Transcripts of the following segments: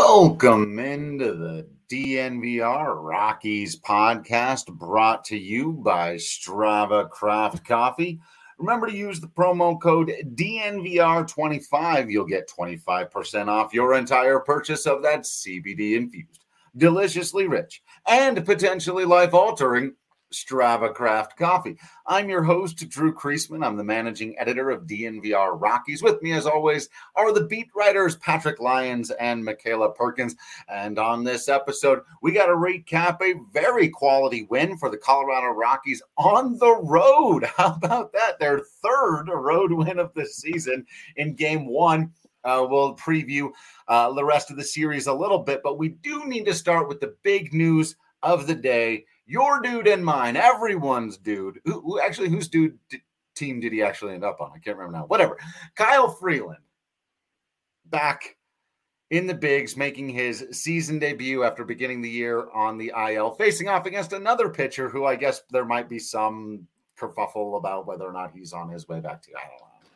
Welcome into the DNVR Rockies podcast, brought to you by Strava Craft Coffee. Remember to use the promo code DNVR25. You'll get 25% off your entire purchase of that CBD-infused, deliciously rich, and potentially life-altering Strava Craft Coffee. I'm your host, Drew Kreisman. I'm the managing editor of DNVR Rockies. With me, as always, are the beat writers Patrick Lyons and Michaela Perkins. And on this episode, we got to recap a very quality win for the Colorado Rockies on the road. How about that? Their third road win of the season in Game 1. We'll preview the rest of the series a little bit, but we do need to start with the big news of the day. Your dude and mine, everyone's dude. Whose team did he actually end up on? I can't remember now. Whatever. Kyle Freeland back in the bigs, making his season debut after beginning the year on the IL, facing off against another pitcher who I guess there might be some kerfuffle about whether or not he's on his way back to. I don't know.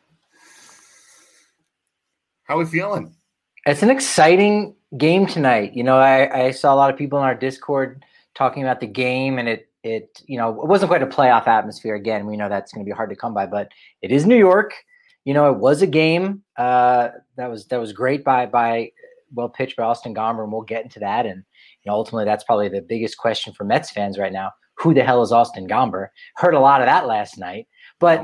How are we feeling? It's an exciting game tonight. You know, I saw a lot of people in our Discord talking about the game, and it wasn't quite a playoff atmosphere. Again, we know that's going to be hard to come by, but it is New York. You know, it was a game that was great by well pitched by Austin Gomber, and we'll get into that. And ultimately, that's probably the biggest question for Mets fans right now: who the hell is Austin Gomber? Heard a lot of that last night, but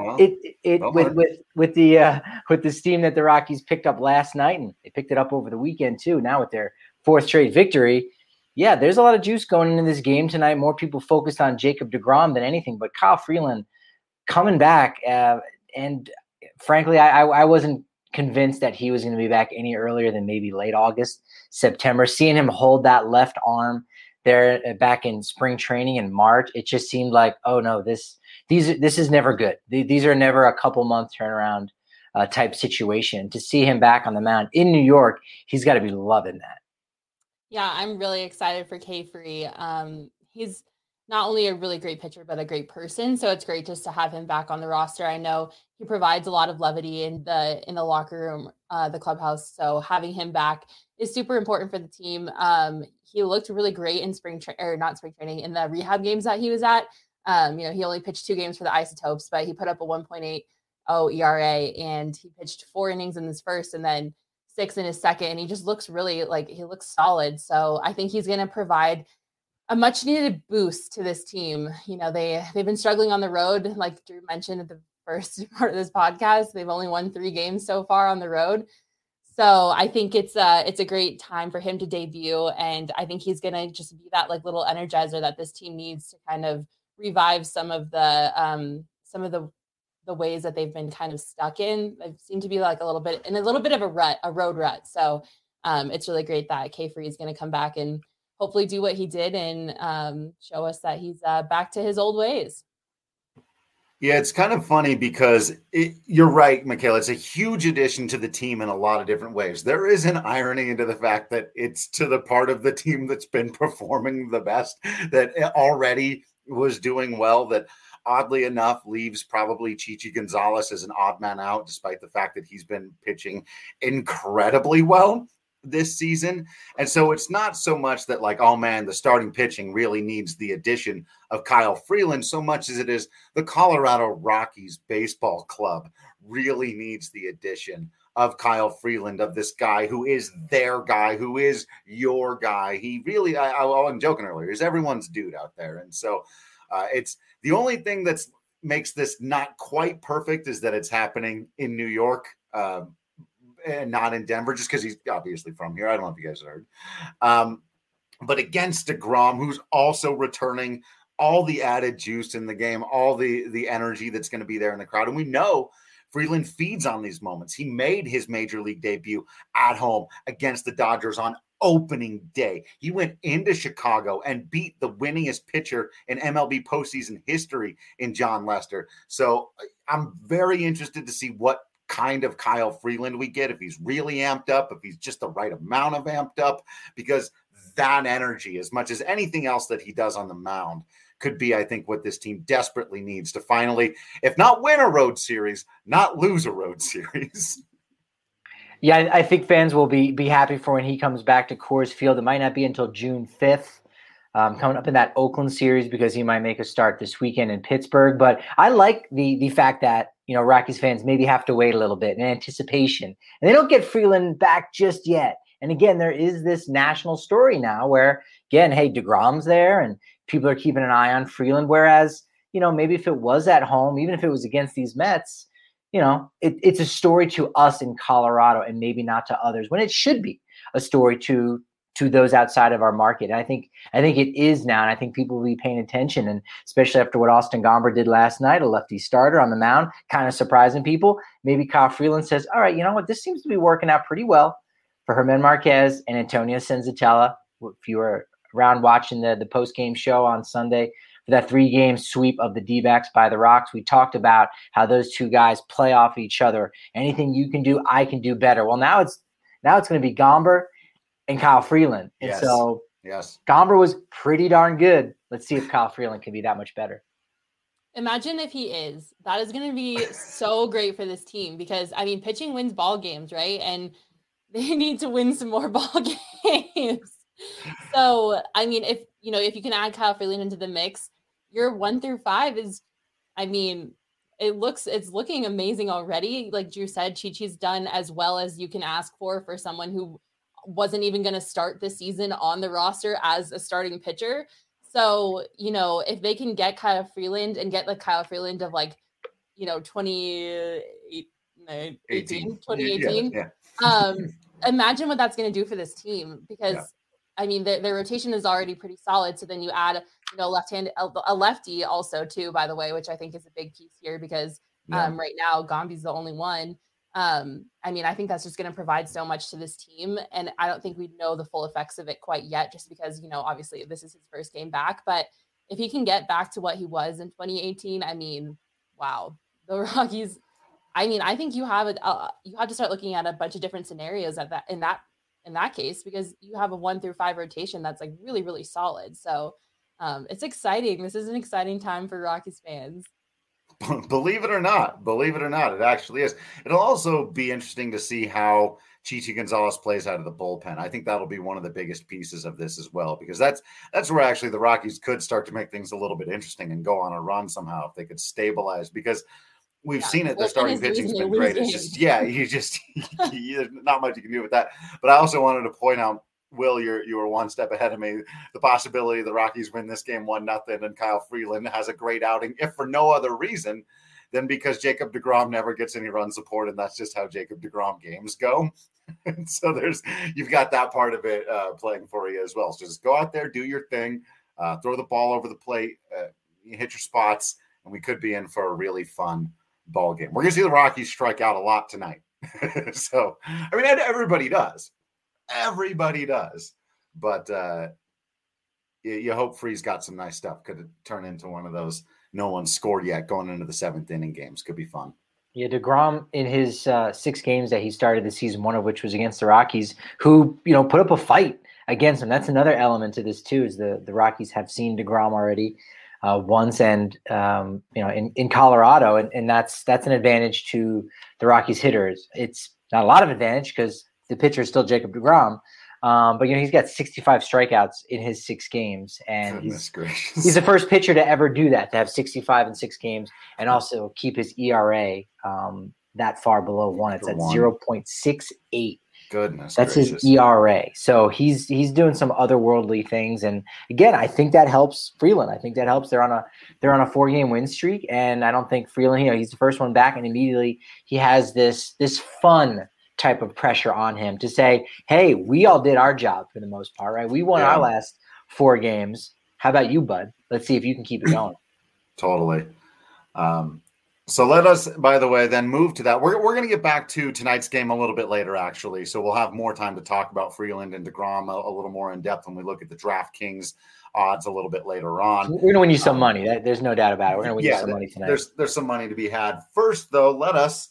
with the steam that the Rockies picked up last night, and they picked it up over the weekend too. Now with their fourth straight victory. Yeah, there's a lot of juice going into this game tonight. More people focused on Jacob deGrom than anything, but Kyle Freeland coming back. And frankly, I wasn't convinced that he was going to be back any earlier than maybe late August, September. Seeing him hold that left arm there back in spring training in March, it just seemed like, oh no, this is never good. These are never a couple month turnaround type situation. To see him back on the mound in New York, he's got to be loving that. Yeah, I'm really excited for K-Free. He's not only a really great pitcher, but a great person. So it's great just to have him back on the roster. I know he provides a lot of levity in the locker room, the clubhouse. So having him back is super important for the team. He looked really great in in the rehab games that he was at. He only pitched 2 games for the Isotopes, but he put up a 1.80 ERA, and he pitched 4 innings in his first and then 6 in his second, and he just looks really he looks solid. So I think he's going to provide a much needed boost to this team. You know, they've been struggling on the road, like Drew mentioned at the first part of this podcast. They've only won 3 games so far on the road. So I think it's a great time for him to debut, and I think he's going to just be that little energizer that this team needs to kind of revive some of the ways that they've been kind of stuck in. They seem to be a little bit of a road rut. So it's really great that K-Free is going to come back and hopefully do what he did and show us that he's back to his old ways. Yeah, it's kind of funny because you're right, Michaela. It's a huge addition to the team in a lot of different ways. There is an irony into the fact that it's to the part of the team that's been performing the best, that already was doing well, that oddly enough leaves probably Chichi Gonzalez as an odd man out, despite the fact that he's been pitching incredibly well this season. And so it's not so much that oh man, the starting pitching really needs the addition of Kyle Freeland so much as it is the Colorado Rockies baseball club really needs the addition of Kyle Freeland, of this guy who is their guy, who is your guy. He really, I wasn't joking earlier, is everyone's dude out there. And so it's the only thing that makes this not quite perfect is that it's happening in New York and not in Denver, just because he's obviously from here. I don't know if you guys heard. But against deGrom, who's also returning all the added juice in the game, all the energy that's going to be there in the crowd. And we know Freeland feeds on these moments. He made his major league debut at home against the Dodgers on opening day. He went into Chicago and beat the winningest pitcher in MLB postseason history in John Lester. So I'm very interested to see what kind of Kyle Freeland we get, if he's really amped up, if he's just the right amount of amped up, because that energy, as much as anything else that he does on the mound, could be, I think, what this team desperately needs to finally, if not win a road series, not lose a road series. Yeah, I think fans will be happy for when he comes back to Coors Field. It might not be until June 5th, coming up in that Oakland series, because he might make a start this weekend in Pittsburgh. But I like the fact that, Rockies fans maybe have to wait a little bit in anticipation. And they don't get Freeland back just yet. And again, there is this national story now where, again, hey, DeGrom's there and people are keeping an eye on Freeland. Whereas, maybe if it was at home, even if it was against these Mets, it's a story to us in Colorado and maybe not to others, when it should be a story to those outside of our market. And I think it is now, and I think people will be paying attention, and especially after what Austin Gomber did last night, a lefty starter on the mound, kind of surprising people. Maybe Kyle Freeland says, all right, you know what, this seems to be working out pretty well for Germán Marquez and Antonio Senzatella. If you were around watching the post-game show on Sunday, for that 3-game sweep of the D-backs by the Rocks, we talked about how those two guys play off each other. Anything you can do, I can do better. Well, now it's going to be Gomber and Kyle Freeland. And so Gomber was pretty darn good. Let's see if Kyle Freeland can be that much better. Imagine if he is. That is going to be so great for this team, because, pitching wins ball games, right? And they need to win some more ball games. So, if you can add Kyle Freeland into the mix, your 1 through 5 is, it's looking amazing already. Like Drew said, Chi-Chi's done as well as you can ask for someone who wasn't even going to start this season on the roster as a starting pitcher. So, if they can get Kyle Freeland and get the Kyle Freeland of 2018, imagine what that's going to do for this team, because their rotation is already pretty solid. So then you add, a lefty also too, by the way, which I think is a big piece here, because right now Gombi's the only one. I think that's just going to provide so much to this team. And I don't think we know the full effects of it quite yet, just because, obviously this is his first game back. But if he can get back to what he was in 2018, wow, the Rockies. I think you have to start looking at a bunch of different scenarios in that case, because you have a 1 through 5 rotation that's really, really solid. So it's exciting. This is an exciting time for Rockies fans. Believe it or not, it actually is. It'll also be interesting to see how Chichi Gonzalez plays out of the bullpen. I think that'll be one of the biggest pieces of this as well, because that's where actually the Rockies could start to make things a little bit interesting and go on a run somehow if they could stabilize, because we've seen it. The starting pitching's been great. It's just, there's not much you can do with that. But I also wanted to point out, Will, you were one step ahead of me. The possibility the Rockies win this game 1-0 and Kyle Freeland has a great outing, if for no other reason than because Jacob deGrom never gets any run support, and that's just how Jacob deGrom games go. And so you've got that part of it playing for you as well. So just go out there, do your thing, throw the ball over the plate, hit your spots, and we could be in for a really fun ball game. We're going to see the Rockies strike out a lot tonight. So, everybody does. Everybody does. But you hope Free's got some nice stuff. Could it turn into one of those no one scored yet going into the 7th inning games? Could be fun. Yeah, DeGrom in his 6 games that he started this season, one of which was against the Rockies, who, put up a fight against him. That's another element to this too, is the Rockies have seen DeGrom already once, and in Colorado, and that's an advantage to the Rockies hitters. It's not a lot of advantage because the pitcher is still Jacob deGrom, but he's got 65 strikeouts in his 6 games, and he's the first pitcher to ever do that, to have 65 in 6 games, and also keep his ERA that far below 1. It's at 0.68. Goodness, that's gracious. His ERA. So he's doing some otherworldly things, and again, I think that helps Freeland. I think that helps. They're on a 4-game win streak, and I don't think Freeland. He's the first one back, and immediately he has this fun type of pressure on him to say, "Hey, we all did our job for the most part, right? We won our last 4 games. How about you, bud? Let's see if you can keep it going." Totally. So let us, by the way, then move to that. We're going to get back to tonight's game a little bit later, actually. So we'll have more time to talk about Freeland and deGrom a little more in depth when we look at the DraftKings odds a little bit later on. We're going to win you some money. There's no doubt about it. We're going to win you some money tonight. There's some money to be had. First, though, let us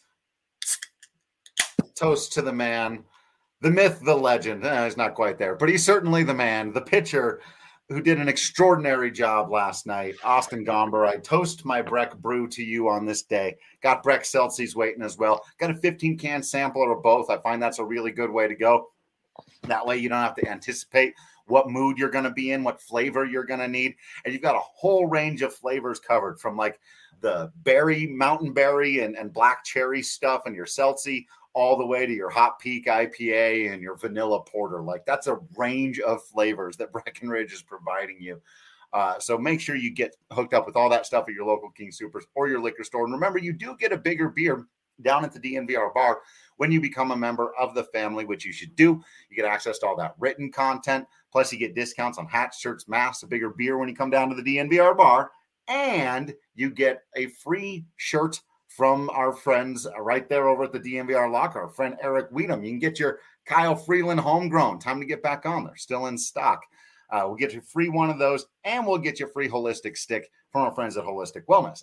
toast to the man, the myth, the legend. He's not quite there, but he's certainly the man, the pitcher, who did an extraordinary job last night, Austin Gomber. I toast my Breck brew to you on this day. Got Breck Seltzies waiting as well. Got a 15-can sampler of both. I find that's a really good way to go. That way you don't have to anticipate what mood you're going to be in, what flavor you're going to need. And you've got a whole range of flavors covered, from like the berry, mountain berry and black cherry stuff and your Seltzy, all the way to your Hot Peak IPA and your vanilla porter. Like, that's a range of flavors that Breckenridge is providing you. So make sure you get hooked up with all that stuff at your local King Soopers or your liquor store. And remember, you do get a bigger beer down at the DNVR bar when you become a member of the family, which you should do. You get access to all that written content. Plus, you get discounts on hats, shirts, masks, a bigger beer when you come down to the DNVR bar. And you get a free shirt from our friends right there over at the DNVR locker, our friend Eric Weedham. You can get your Kyle Freeland homegrown. Time to get back on. They're still in stock. We'll get you free one of those, and we'll get you a free holistic stick from our friends at Holistic Wellness,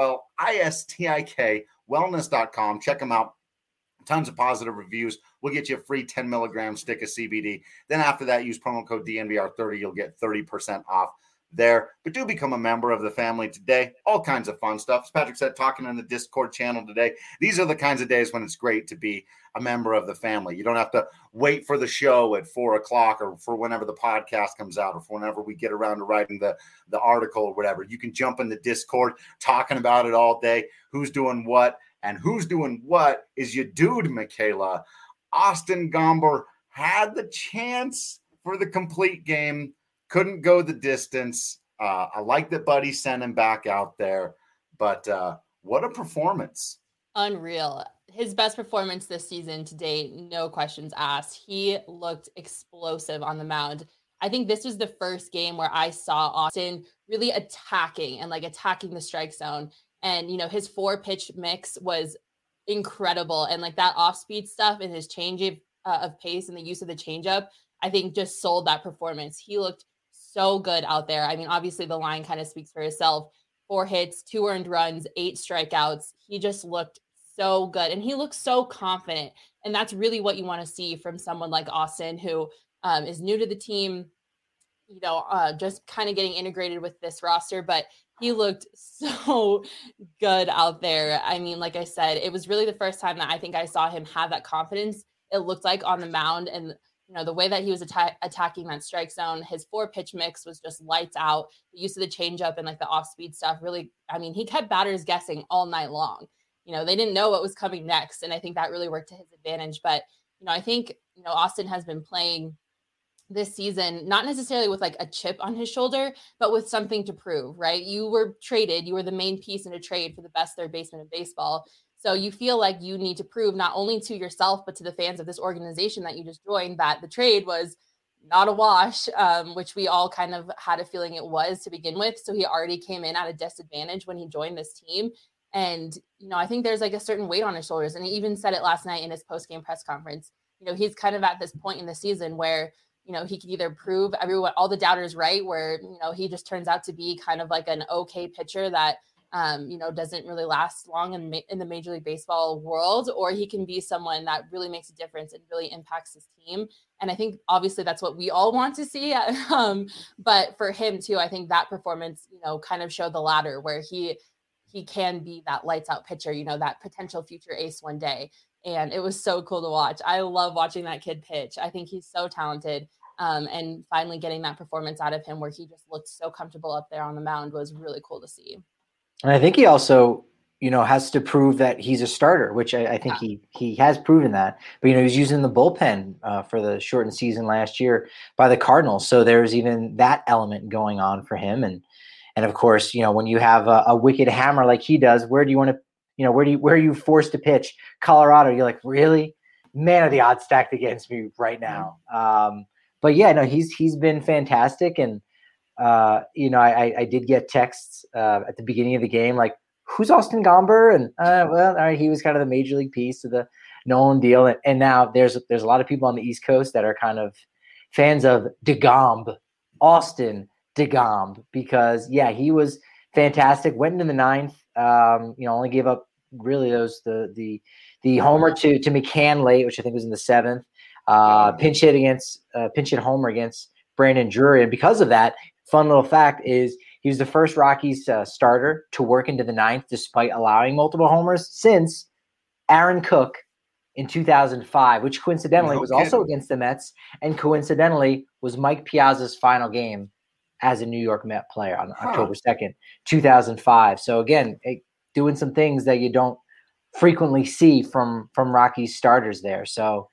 HOLISTIK wellness.com. Check them out. Tons of positive reviews. We'll get you a free 10 milligram stick of CBD. Then after that, use promo code DNVR30. You'll get 30% off there. But do become a member of the family today. All kinds of fun stuff. As Patrick said, talking in the Discord channel today, these are the kinds of days when it's great to be a member of the family. You don't have to wait for the show at 4 o'clock or for whenever the podcast comes out or for whenever we get around to writing the article or whatever. You can jump in the Discord talking about it all day. Who's doing what? And who's doing what is your dude, Michaela. Austin Gomber had the chance for the complete game. Couldn't go the distance. I like that Buddy sent him back out there. But what a performance. Unreal. His best performance this season to date, no questions asked. He looked explosive on the mound. I think this was the first game where I saw Austin really attacking the strike zone. And, you know, his 4-pitch mix was incredible. And like that off-speed stuff and his change of pace and the use of the changeup, I think just sold that performance. He looked so good out there. I mean, obviously the line kind of speaks for itself. 4 hits, 2 earned runs, 8 strikeouts. He just looked so good. And he looked so confident. And that's really what you want to see from someone like Austin, who is new to the team, you know, just kind of getting integrated with this roster. But he looked so good out there. I mean, like I said, it was really the first time that I think I saw him have that confidence. It looked like on the mound, and you know, the way that he was attacking that strike zone, his 4-pitch mix was just lights out. The use of the changeup and like the off-speed stuff really, I mean, he kept batters guessing all night long. You know, they didn't know what was coming next. And I think that really worked to his advantage. But, you know, I think, you know, Austin has been playing this season, not necessarily with like a chip on his shoulder, but with something to prove, right? You were traded, you were the main piece in a trade for the best third baseman in baseball. So you feel like you need to prove not only to yourself, but to the fans of this organization that you just joined that the trade was not a wash, which we all kind of had a feeling it was to begin with. So he already came in at a disadvantage when he joined this team. And, you know, I think there's like a certain weight on his shoulders. And he even said it last night in his post-game press conference. You know, he's kind of at this point in the season where, you know, he can either prove everyone, all the doubters right, where, you know, he just turns out to be kind of like an okay pitcher that, you know, doesn't really last long in the Major League Baseball world, or he can be someone that really makes a difference and really impacts his team. And I think obviously that's what we all want to see. But for him too, I think that performance, you know, kind of showed the ladder where he can be that lights out pitcher, you know, that potential future ace one day. And it was so cool to watch. I love watching that kid pitch. I think he's so talented. And finally getting that performance out of him where he just looked so comfortable up there on the mound was really cool to see. And I think he also, you know, has to prove that he's a starter, which I think he has proven that. But, you know, he's using the bullpen for the shortened season last year by the Cardinals. So there's even that element going on for him. And of course, you know, when you have a wicked hammer like he does, where do you want to, you know, where are you forced to pitch? Colorado, you're like, really? Man, are the odds stacked against me right now. But yeah, no, he's been fantastic. And, you know, I did get texts at the beginning of the game, like, who's Austin Gomber? And well, all right, he was kind of the major league piece of the Nolan deal. And now there's a lot of people on the East Coast that are kind of fans of DeGomb, Austin DeGomb, because yeah, he was fantastic. Went into the 9th, you know, only gave up really the homer to McCann late, which I think was in the 7th. Pinch hit homer against Brandon Drury, and because of that, fun little fact is he was the first Rockies starter to work into the ninth despite allowing multiple homers since Aaron Cook in 2005, which coincidentally was also against the Mets, and coincidentally was Mike Piazza's final game as a New York Met player on October 2nd, 2005. So again, doing some things that you don't frequently see from Rockies starters there. So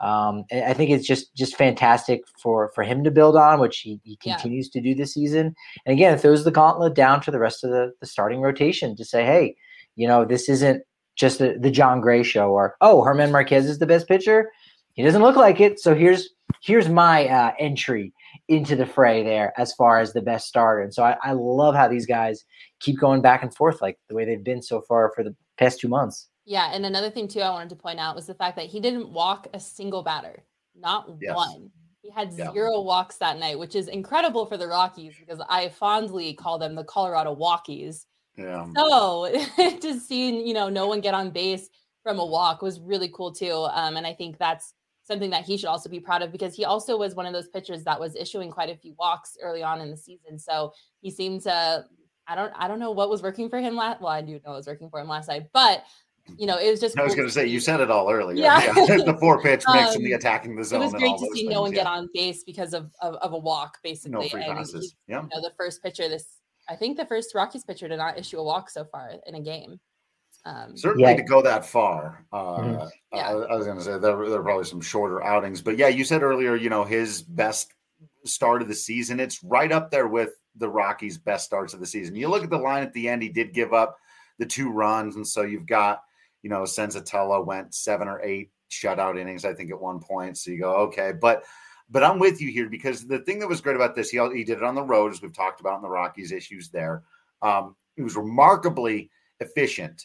I think it's just fantastic for him to build on, which he continues to do this season. And again, it throws the gauntlet down to the rest of the starting rotation to say, hey, this isn't just the John Gray show, or, oh, Germán Marquez is the best pitcher. He doesn't look like it. So here's my entry into the fray there as far as the best starter. And so I love how these guys keep going back and forth like the way they've been so far for the past 2 months. Yeah, and another thing, too, I wanted to point out was the fact that he didn't walk a single batter, not one. He had 0 walks that night, which is incredible for the Rockies because I fondly call them the Colorado Walkies. Yeah. So to see, no one get on base from a walk was really cool, too. And I think that's something that he should also be proud of because he also was one of those pitchers that was issuing quite a few walks early on in the season. So he seemed to, I don't know what was working for him last. Well, I do know what was working for him last night, but it was just. I was going to say you said it all earlier. Yeah. The 4-pitch mix and the attacking the zone. It was great to see no one get on base because of a walk, basically. No free passes. Yeah. The first pitcher, I think the first Rockies pitcher to not issue a walk so far in a game. Certainly to go that far. I was going to say there are probably some shorter outings, but you said earlier, his best start of the season. It's right up there with the Rockies' best starts of the season. You look at the line at the end; he did give up the 2 runs, and so you've got. Senzatella went 7 or 8 shutout innings, I think, at one point. So you go, okay, but I'm with you here because the thing that was great about this, he did it on the road, as we've talked about in the Rockies issues there. He was remarkably efficient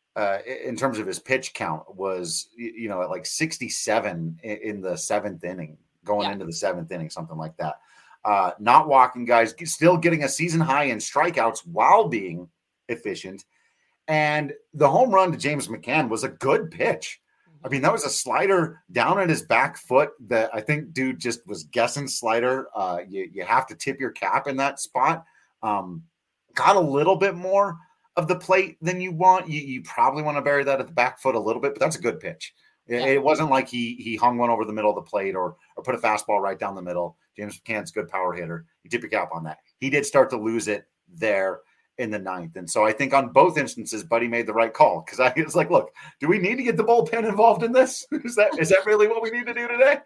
in terms of his pitch count. Was at like 67 in the 7th inning, going into the 7th inning, something like that. Not walking guys, still getting a season high in strikeouts while being efficient. And the home run to James McCann was a good pitch. I mean, that was a slider down at his back foot that I think dude just was guessing slider. You have to tip your cap in that spot. Got a little bit more of the plate than you want. You probably want to bury that at the back foot a little bit, but that's a good pitch. It wasn't like he hung one over the middle of the plate or put a fastball right down the middle. James McCann's a good power hitter. You tip your cap on that. He did start to lose it there in the 9th. And so I think on both instances, Buddy made the right call because I was like, look, do we need to get the bullpen involved in this? Is that really what we need to do today?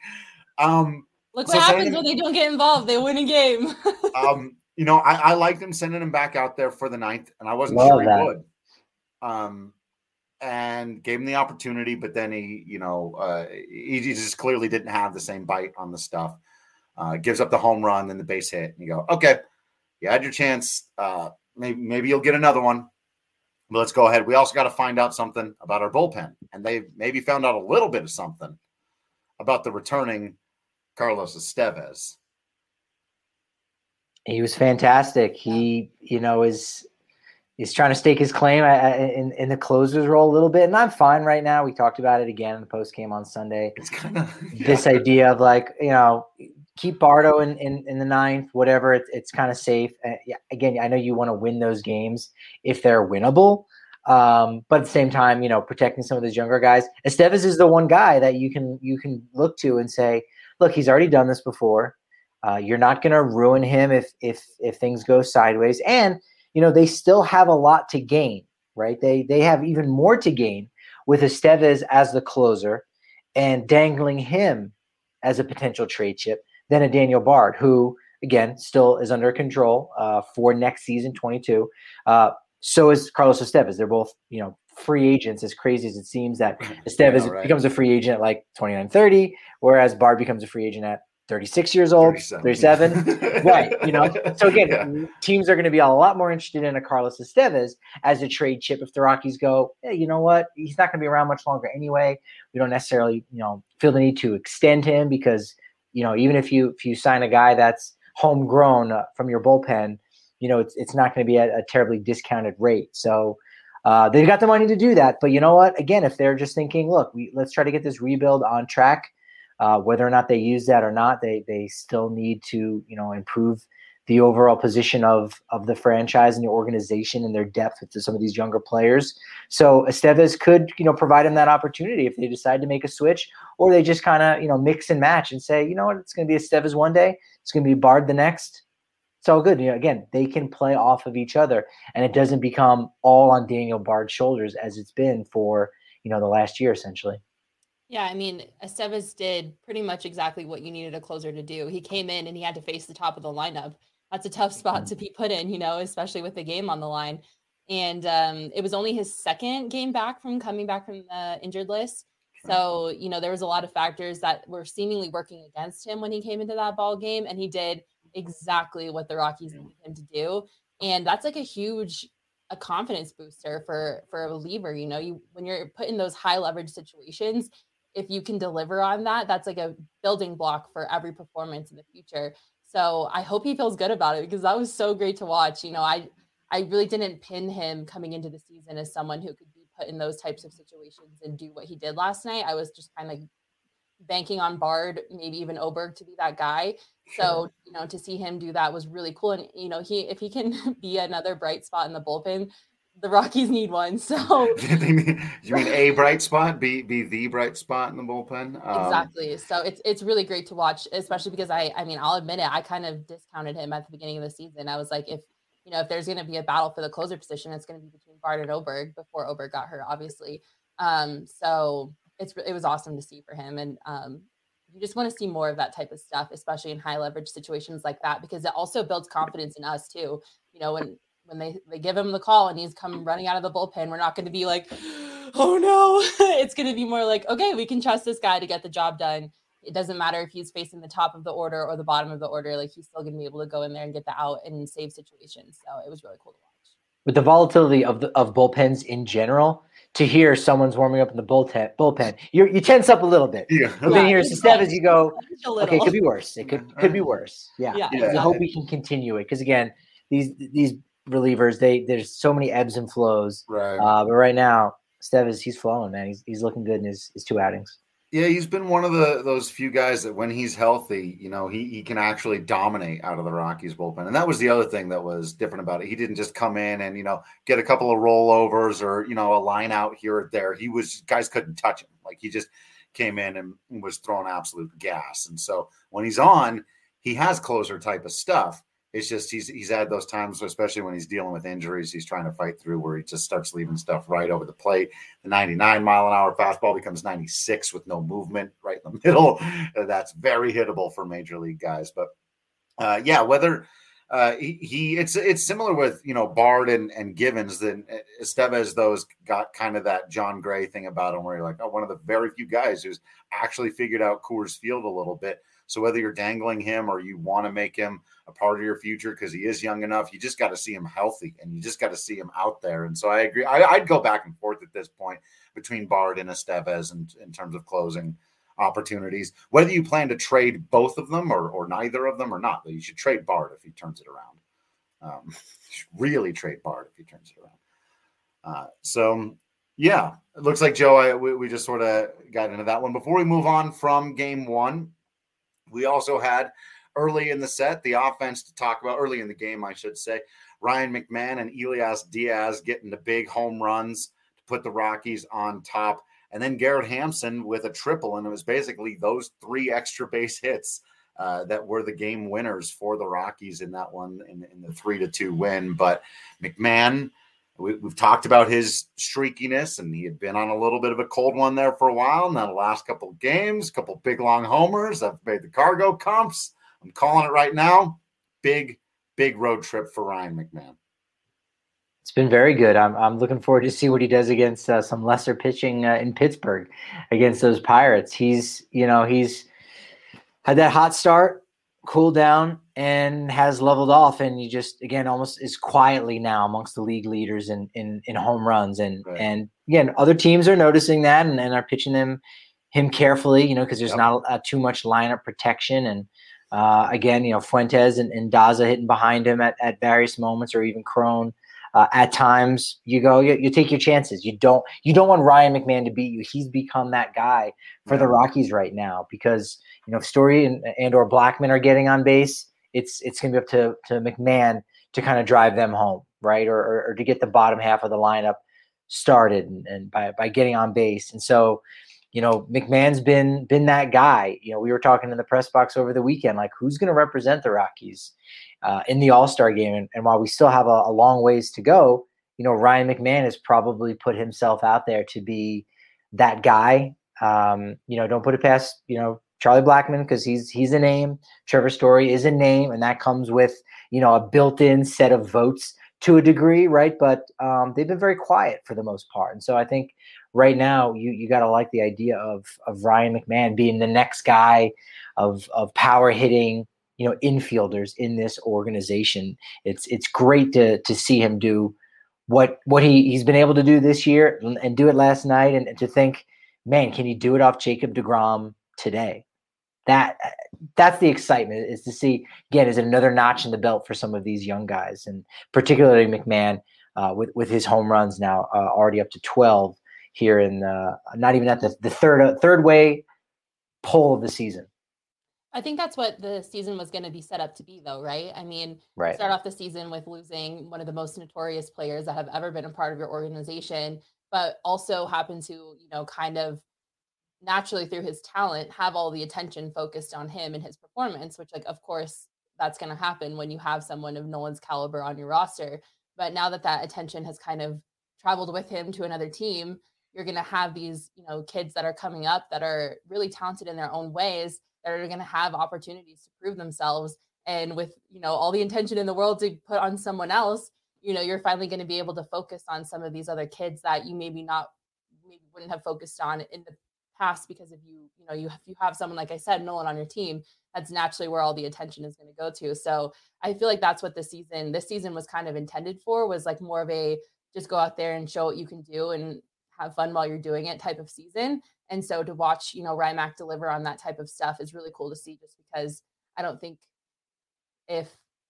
Look what happens when they don't get involved. They win a game. I liked him sending him back out there for the 9th, and I wasn't sure he would. And gave him the opportunity, but then he just clearly didn't have the same bite on the stuff. Gives up the home run, then the base hit. And you go, okay, you had your chance. Maybe you'll get another one. But let's go ahead. We also got to find out something about our bullpen. And they maybe found out a little bit of something about the returning Carlos Estevez. He was fantastic. He, is trying to stake his claim in the closer's role a little bit. And I'm fine right now. We talked about it again in the post game on Sunday. It's kind of this idea of like, keep Bardo in the 9th, whatever. It's kind of safe. Again, I know you want to win those games if they're winnable. But at the same time, protecting some of those younger guys. Estevez is the one guy that you can look to and say, look, he's already done this before. You're not going to ruin him if things go sideways. And, they still have a lot to gain, right? They have even more to gain with Estevez as the closer and dangling him as a potential trade chip than a Daniel Bard, who, again, still is under control for next season, 22. So is Carlos Estevez. They're both, free agents, as crazy as it seems that Estevez becomes a free agent at like 29, 30, whereas Bard becomes a free agent at 36 years old, 37. Right. So again, teams are going to be a lot more interested in a Carlos Estevez as a trade chip if the Rockies go, hey, you know what? He's not going to be around much longer anyway. We don't necessarily, feel the need to extend him because, even if you sign a guy that's homegrown from your bullpen, it's not going to be at a terribly discounted rate. So they've got the money to do that. But you know what? Again, if they're just thinking, look, let's try to get this rebuild on track, whether or not they use that or not, they still need to, improve the overall position of the franchise and the organization and their depth with some of these younger players. So Estevez could, provide him that opportunity if they decide to make a switch, or they just kind of, mix and match and say, you know what, it's going to be Estevez one day, it's going to be Bard the next. It's all good. Again, they can play off of each other, and it doesn't become all on Daniel Bard's shoulders as it's been for, the last year essentially. Yeah, I mean, Estevez did pretty much exactly what you needed a closer to do. He came in and he had to face the top of the lineup. That's a tough spot to be put in, especially with the game on the line. And it was only his second game back from coming back from the injured list. So, there was a lot of factors that were seemingly working against him when he came into that ball game, and he did exactly what the Rockies needed him to do. And that's like a huge confidence booster for a reliever. When you're put in those high leverage situations, if you can deliver on that, that's like a building block for every performance in the future. So I hope he feels good about it, because that was so great to watch. I really didn't pin him coming into the season as someone who could be put in those types of situations and do what he did last night. I was just kind of banking on Bard, maybe even Oberg, to be that guy. Sure. So, to see him do that was really cool. And, if he can be another bright spot in the bullpen, the Rockies need one. So you mean a bright spot, be the bright spot in the bullpen? Exactly. So it's really great to watch, especially because I mean, I'll admit it, I kind of discounted him at the beginning of the season. I was like, if there's going to be a battle for the closer position, it's going to be between Bard and Oberg, before Oberg got hurt, obviously. So it was awesome to see for him. And you just want to see more of that type of stuff, especially in high leverage situations like that, because it also builds confidence in us too. When they give him the call and he's come running out of the bullpen, we're not going to be like, oh no. It's going to be more like, okay, we can trust this guy to get the job done. It doesn't matter if he's facing the top of the order or the bottom of the order. Like, he's still going to be able to go in there and get the out and save situations. So it was really cool to watch. With the volatility of bullpens in general, to hear someone's warming up in the bullpen, you tense up a little bit. Yeah. But then here's Estevez, you go, okay, it could be worse. It could be worse. Yeah. I hope we can continue it, because again, these relievers, there's so many ebbs and flows. Right. But right now, Estevez, he's flowing, man. He's looking good in his 2 outings. Yeah, he's been one of those few guys that when he's healthy, he can actually dominate out of the Rockies bullpen. And that was the other thing that was different about it. He didn't just come in and, get a couple of rollovers or, a line out here or there. Guys couldn't touch him. Like, he just came in and was throwing absolute gas. And so when he's on, he has closer type of stuff. It's just he's had those times, especially when he's dealing with injuries, he's trying to fight through, where he just starts leaving stuff right over the plate. The 99-mile-an-hour fastball becomes 96 with no movement right in the middle. That's very hittable for major league guys. But whether it's similar with Bard and Givens. Then Estevez, those got kind of that John Gray thing about him, where you're like, one of the very few guys who's actually figured out Coors Field a little bit. So whether you're dangling him or you want to make him a part of your future because he is young enough, you just got to see him healthy and you just got to see him out there. And so I agree. I'd go back and forth at this point between Bard and Estevez in terms of closing opportunities. Whether you plan to trade both of them or neither of them or not, but you should trade Bard if he turns it around. Really trade Bard if he turns it around. Yeah, it looks like, Joe, we just sort of got into that one. Before we move on from game one, we also had early in the set, the offense to talk about, early in the game, I should say, Ryan McMahon and Elias Diaz getting the big home runs to put the Rockies on top. And then Garrett Hampson with a triple. And it was basically those 3 extra base hits that were the game winners for the Rockies in that one, in the 3-2 win. But McMahon, we've talked about his streakiness, and he had been on a little bit of a cold one there for a while. And then the last couple of games, couple big long homers. I've made the cargo comps. I'm calling it right now. Big road trip for Ryan McMahon. It's been very good. I'm looking forward to see what he does against some lesser pitching in Pittsburgh against those Pirates. He's had that hot start, cooled down, and has leveled off, and he just, again, almost is quietly now amongst the league leaders in home runs. And right. And again, other teams are noticing that and are pitching him carefully, because there's not too much lineup protection. And again, Fuentes and Daza hitting behind him at various moments, or even Cron. At times you take your chances. You don't want Ryan McMahon to beat you. He's become that guy for the Rockies right now, because if Story and or Blackman are getting on base, it's going to be up to McMahon to kind of drive them home, right? Or to get the bottom half of the lineup started and by getting on base. And so, McMahon's been that guy. We were talking in the press box over the weekend, like who's going to represent the Rockies in the All-Star game. And while we still have a long ways to go, Ryan McMahon has probably put himself out there to be that guy. Don't put it past, Charlie Blackmon, because he's a name. Trevor Story is a name, and that comes with, a built-in set of votes to a degree, right? But they've been very quiet for the most part. And so I think right now you got to like the idea of Ryan McMahon being the next guy of power hitting, infielders in this organization. It's great to see him do what he's been able to do this year and do it last night, and to think, man, can he do it off Jacob deGrom today? That's the excitement, is to see, again, is it another notch in the belt for some of these young guys, and particularly McMahon with his home runs now already up to 12 here in not even at the third way pull of the season. I think that's what the season was going to be set up to be, though, right? I mean, right. Start off the season with losing one of the most notorious players that have ever been a part of your organization, but also happen to, kind of naturally through his talent, have all the attention focused on him and his performance, which, like, of course, that's going to happen when you have someone of Nolan's caliber on your roster. But now that attention has kind of traveled with him to another team, you're going to have these, kids that are coming up that are really talented in their own ways, that are going to have opportunities to prove themselves. And with, all the intention in the world to put on someone else, you're finally going to be able to focus on some of these other kids that you maybe wouldn't have focused on in the past, because if you have someone, like I said, Nolan on your team, that's naturally where all the attention is going to go to. So I feel like that's what this season was kind of intended for, was like more of a just go out there and show what you can do and have fun while you're doing it type of season. And so to watch, Ryan Mac deliver on that type of stuff is really cool to see, just because I don't think if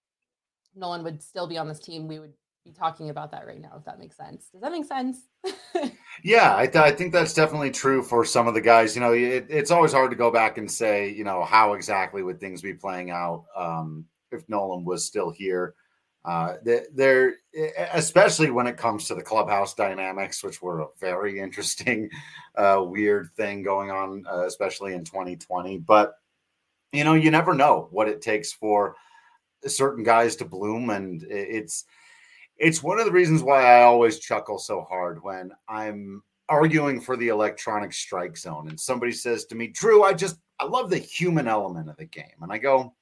Nolan would still be on this team, we would be talking about that right now, if that makes sense. Does that make sense? Yeah, I think that's definitely true for some of the guys. It's always hard to go back and say, how exactly would things be playing out if Nolan was still here. There, especially when it comes to the clubhouse dynamics, which were a very interesting, weird thing going on, especially in 2020. But, you never know what it takes for certain guys to bloom. And it's one of the reasons why I always chuckle so hard when I'm arguing for the electronic strike zone and somebody says to me, Drew, I love the human element of the game. And I go,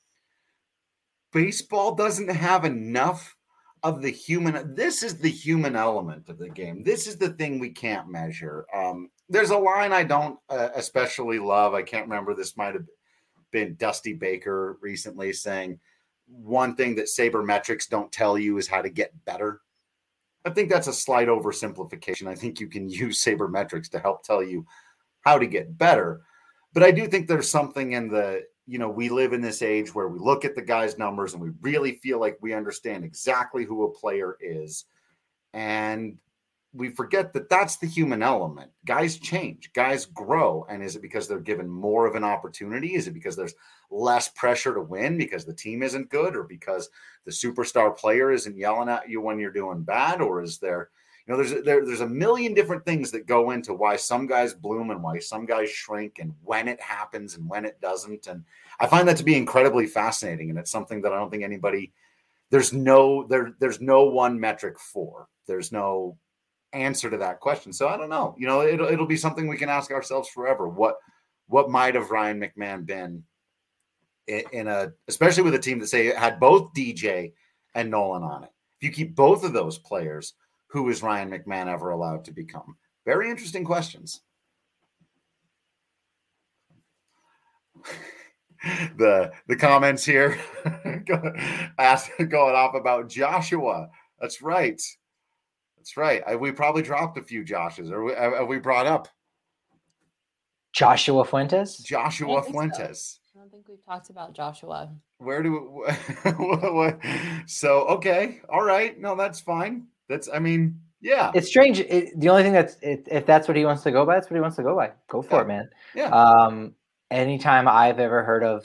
baseball doesn't have enough of the human. This is the human element of the game. This is the thing we can't measure. There's a line I don't especially love. I can't remember. This might have been Dusty Baker recently saying, one thing that sabermetrics don't tell you is how to get better. I think that's a slight oversimplification. I think you can use sabermetrics to help tell you how to get better. But I do think there's something in the, we live in this age where we look at the guy's numbers and we really feel like we understand exactly who a player is. And we forget that that's the human element. Guys change, guys grow. And is it because they're given more of an opportunity? Is it because there's less pressure to win because the team isn't good, or because the superstar player isn't yelling at you when you're doing bad? Or is there, there's a million different things that go into why some guys bloom and why some guys shrink, and when it happens and when it doesn't. And I find that to be incredibly fascinating. And it's something that I don't think anybody, there's no one metric for. There's no answer to that question. So I don't know. It'll be something we can ask ourselves forever. What might have Ryan McMahon been especially with a team that say had both DJ and Nolan on it? If you keep both of those players, who is Ryan McMahon ever allowed to become? Very interesting questions. The comments here going off about Joshua. That's right. We probably dropped a few Joshes. Or have we brought up Joshua Fuentes? Joshua Fuentes. So. I don't think we've talked about Joshua. Where do we, so, okay. All right. No, that's fine. Yeah. It's strange. The only thing if that's what he wants to go by, that's what he wants to go by. Go for it, man. Yeah. Anytime I've ever heard of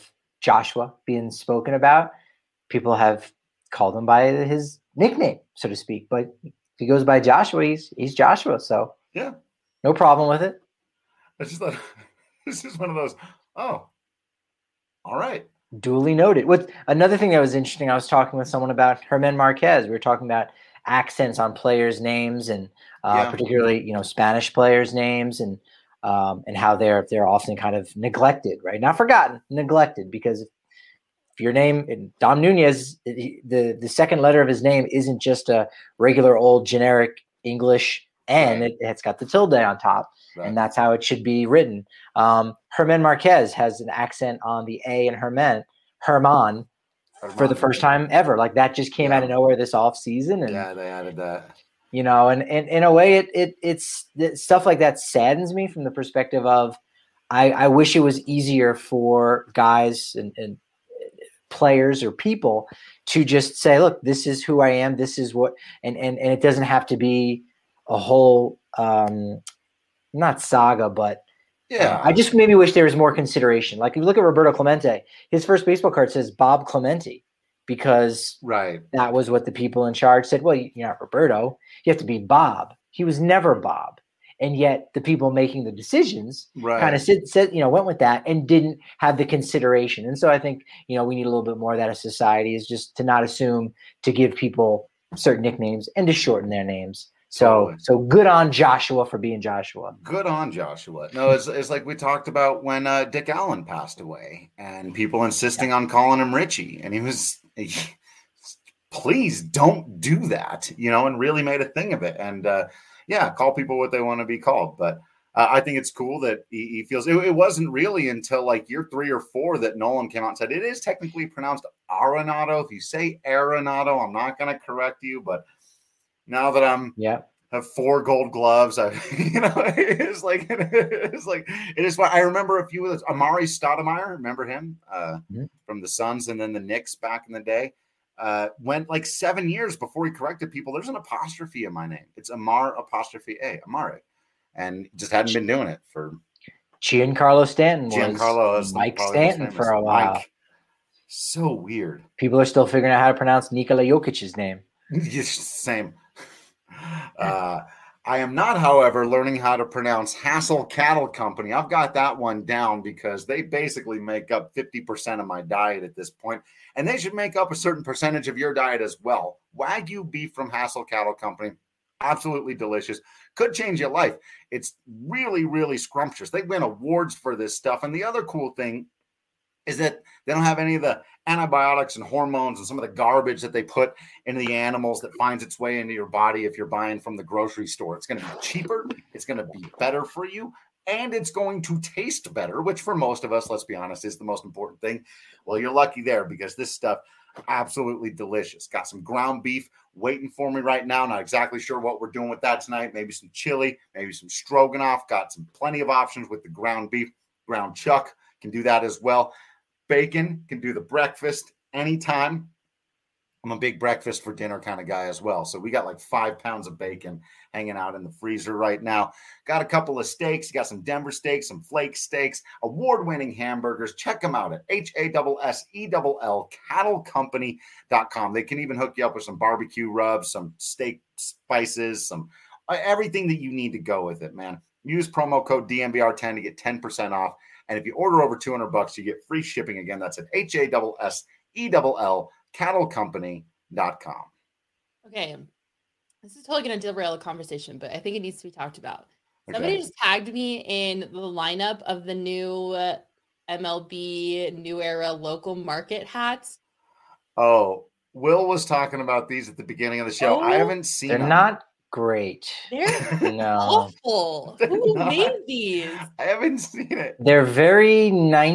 Joshua being spoken about, people have called him by his nickname, so to speak. But if he goes by Joshua, he's Joshua. So yeah, no problem with it. I just thought this is one of those. Oh, all right. Duly noted. With another thing that was interesting, I was talking with someone about German Marquez. We were talking about accents on players' names, and particularly Spanish players' names, and how they're often kind of neglected, right? Not forgotten, neglected, because if your name, Dom Nunez, the second letter of his name isn't just a regular old generic English N. Right. It's got the tilde on top, Right. and that's how it should be written. German Marquez has an accent on the A in Herman for the first time ever. Like that just came out of nowhere this off season, and they added that. And in a way, it's stuff like that saddens me from the perspective of I wish it was easier for guys and players or people to just say, look, this is who I am. This is what, and it doesn't have to be a whole, not saga, but I just maybe wish there was more consideration. Like if you look at Roberto Clemente, his first baseball card says Bob Clemente, because that was what the people in charge said. Well, you're not Roberto. You have to be Bob. He was never Bob. And yet the people making the decisions kind of said, went with that and didn't have the consideration. And so I think, we need a little bit more of that as society, is just to not assume to give people certain nicknames and to shorten their names. So good on Joshua for being Joshua. Good on Joshua. No, it's like we talked about when Dick Allen passed away and people insisting on calling him Richie. And please don't do that, and really made a thing of it. And call people what they want to be called. But I think it's cool that he feels it wasn't really until like year 3 or 4 that Nolan came out and said it is technically pronounced Arenado. If you say Arenado, I'm not going to correct you, but now that have 4 gold gloves, it's like it is fun. I remember a few of those. Amari Stoudemire, remember him from the Suns and then the Knicks back in the day. Went like 7 years before he corrected people. There's an apostrophe in my name. It's Amar apostrophe A, Amare, and just hadn't been doing it for. Giancarlo Stanton was Mike Stanton for a while. Mike. So weird. People are still figuring out how to pronounce Nikola Jokic's name. Same. I am not, however, learning how to pronounce Hassel Cattle Company. I've got that one down because they basically make up 50% of my diet at this point, and they should make up a certain percentage of your diet as well. Wagyu beef from Hassel Cattle Company, absolutely delicious. Could change your life. It's really, really scrumptious. They win awards for this stuff, and the other cool thing is that they don't have any of the antibiotics and hormones and some of the garbage that they put into the animals that finds its way into your body if you're buying from the grocery store. It's going to be cheaper. It's going to be better for you. And it's going to taste better, which for most of us, let's be honest, is the most important thing. Well, you're lucky there because this stuff, absolutely delicious. Got some ground beef waiting for me right now. Not exactly sure what we're doing with that tonight. Maybe some chili, maybe some stroganoff. Got plenty of options with the ground beef. Ground chuck can do that as well. Bacon can do the breakfast anytime. I'm a big breakfast for dinner kind of guy as well. So we got like 5 pounds of bacon hanging out in the freezer right now. Got a couple of steaks. Got some Denver steaks, some flake steaks, award-winning hamburgers. Check them out at HASSELL cattlecompany.com. They can even hook you up with some barbecue rubs, some steak spices, some everything that you need to go with it, man. Use promo code DNVR10 to get 10% off. And if you order over $200, you get free shipping. Again, that's at HASSELL cattlecompany.com. Okay. This is totally going to derail the conversation, but I think it needs to be talked about. Somebody just tagged me in the lineup of the new MLB New Era local market hats. Oh, Will was talking about these at the beginning of the show. I haven't seen them. They're not great. They're awful. Who made these? I haven't seen it. They're very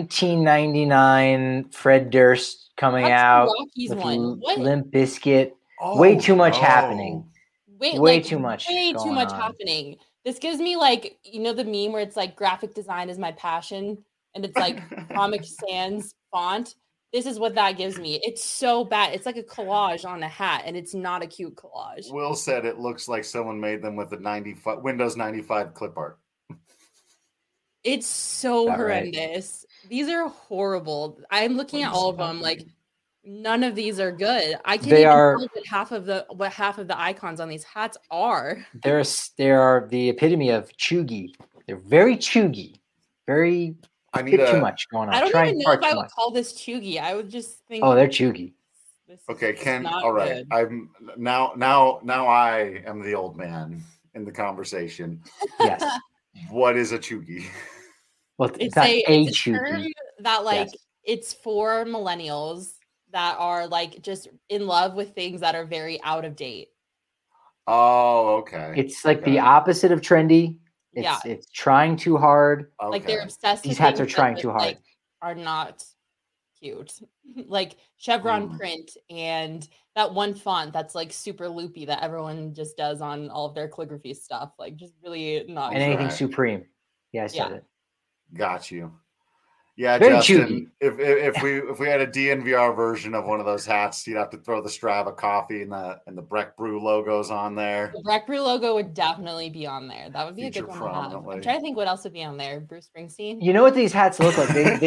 1999 Fred Durst coming out with Limp Bizkit. Way too much happening. Way too much happening. This gives me like, the meme where it's like graphic design is my passion and it's like Comic Sans font. This is what that gives me. It's so bad. It's like a collage on a hat, and it's not a cute collage. Will said it looks like someone made them with the Windows 95 clip art. It's so horrendous. These are horrible. I'm looking at all of them like none of these are good. I can't They even are- tell what half of the icons on these hats are. They are the epitome of chuggy. They're very chuggy, very I need bit too a much going on. I don't Trying even know far if I too would much. call this chuggy. I would just think Oh, they're chuggy. this is okay. just Ken, not all right. good. I'm now I am the old man in the conversation. Yes. What is a chuggy? Well, It's not a a term chuggy. that like Yes. it's for millennials that are like just in love with things that are very out of date. Oh, okay. It's like Okay. the opposite of trendy. It's trying too hard. Like they're Okay. obsessed These with hats are things trying that, too hard. like, are not cute. Like chevron Mm. print and that one font that's like super loopy that everyone just does on all of their calligraphy stuff. Like just really not And anything Okay. supreme. Yeah, I said Yeah. it. Got you. Yeah, Very Justin. If we had a DNVR version of one of those hats, you'd have to throw the Strava coffee and the Breck Brew logos on there. The Breck Brew logo would definitely be on there. That would be Feature a good one to have. prominently. I'm trying to think what else would be on there. Bruce Springsteen. You know what these hats look like?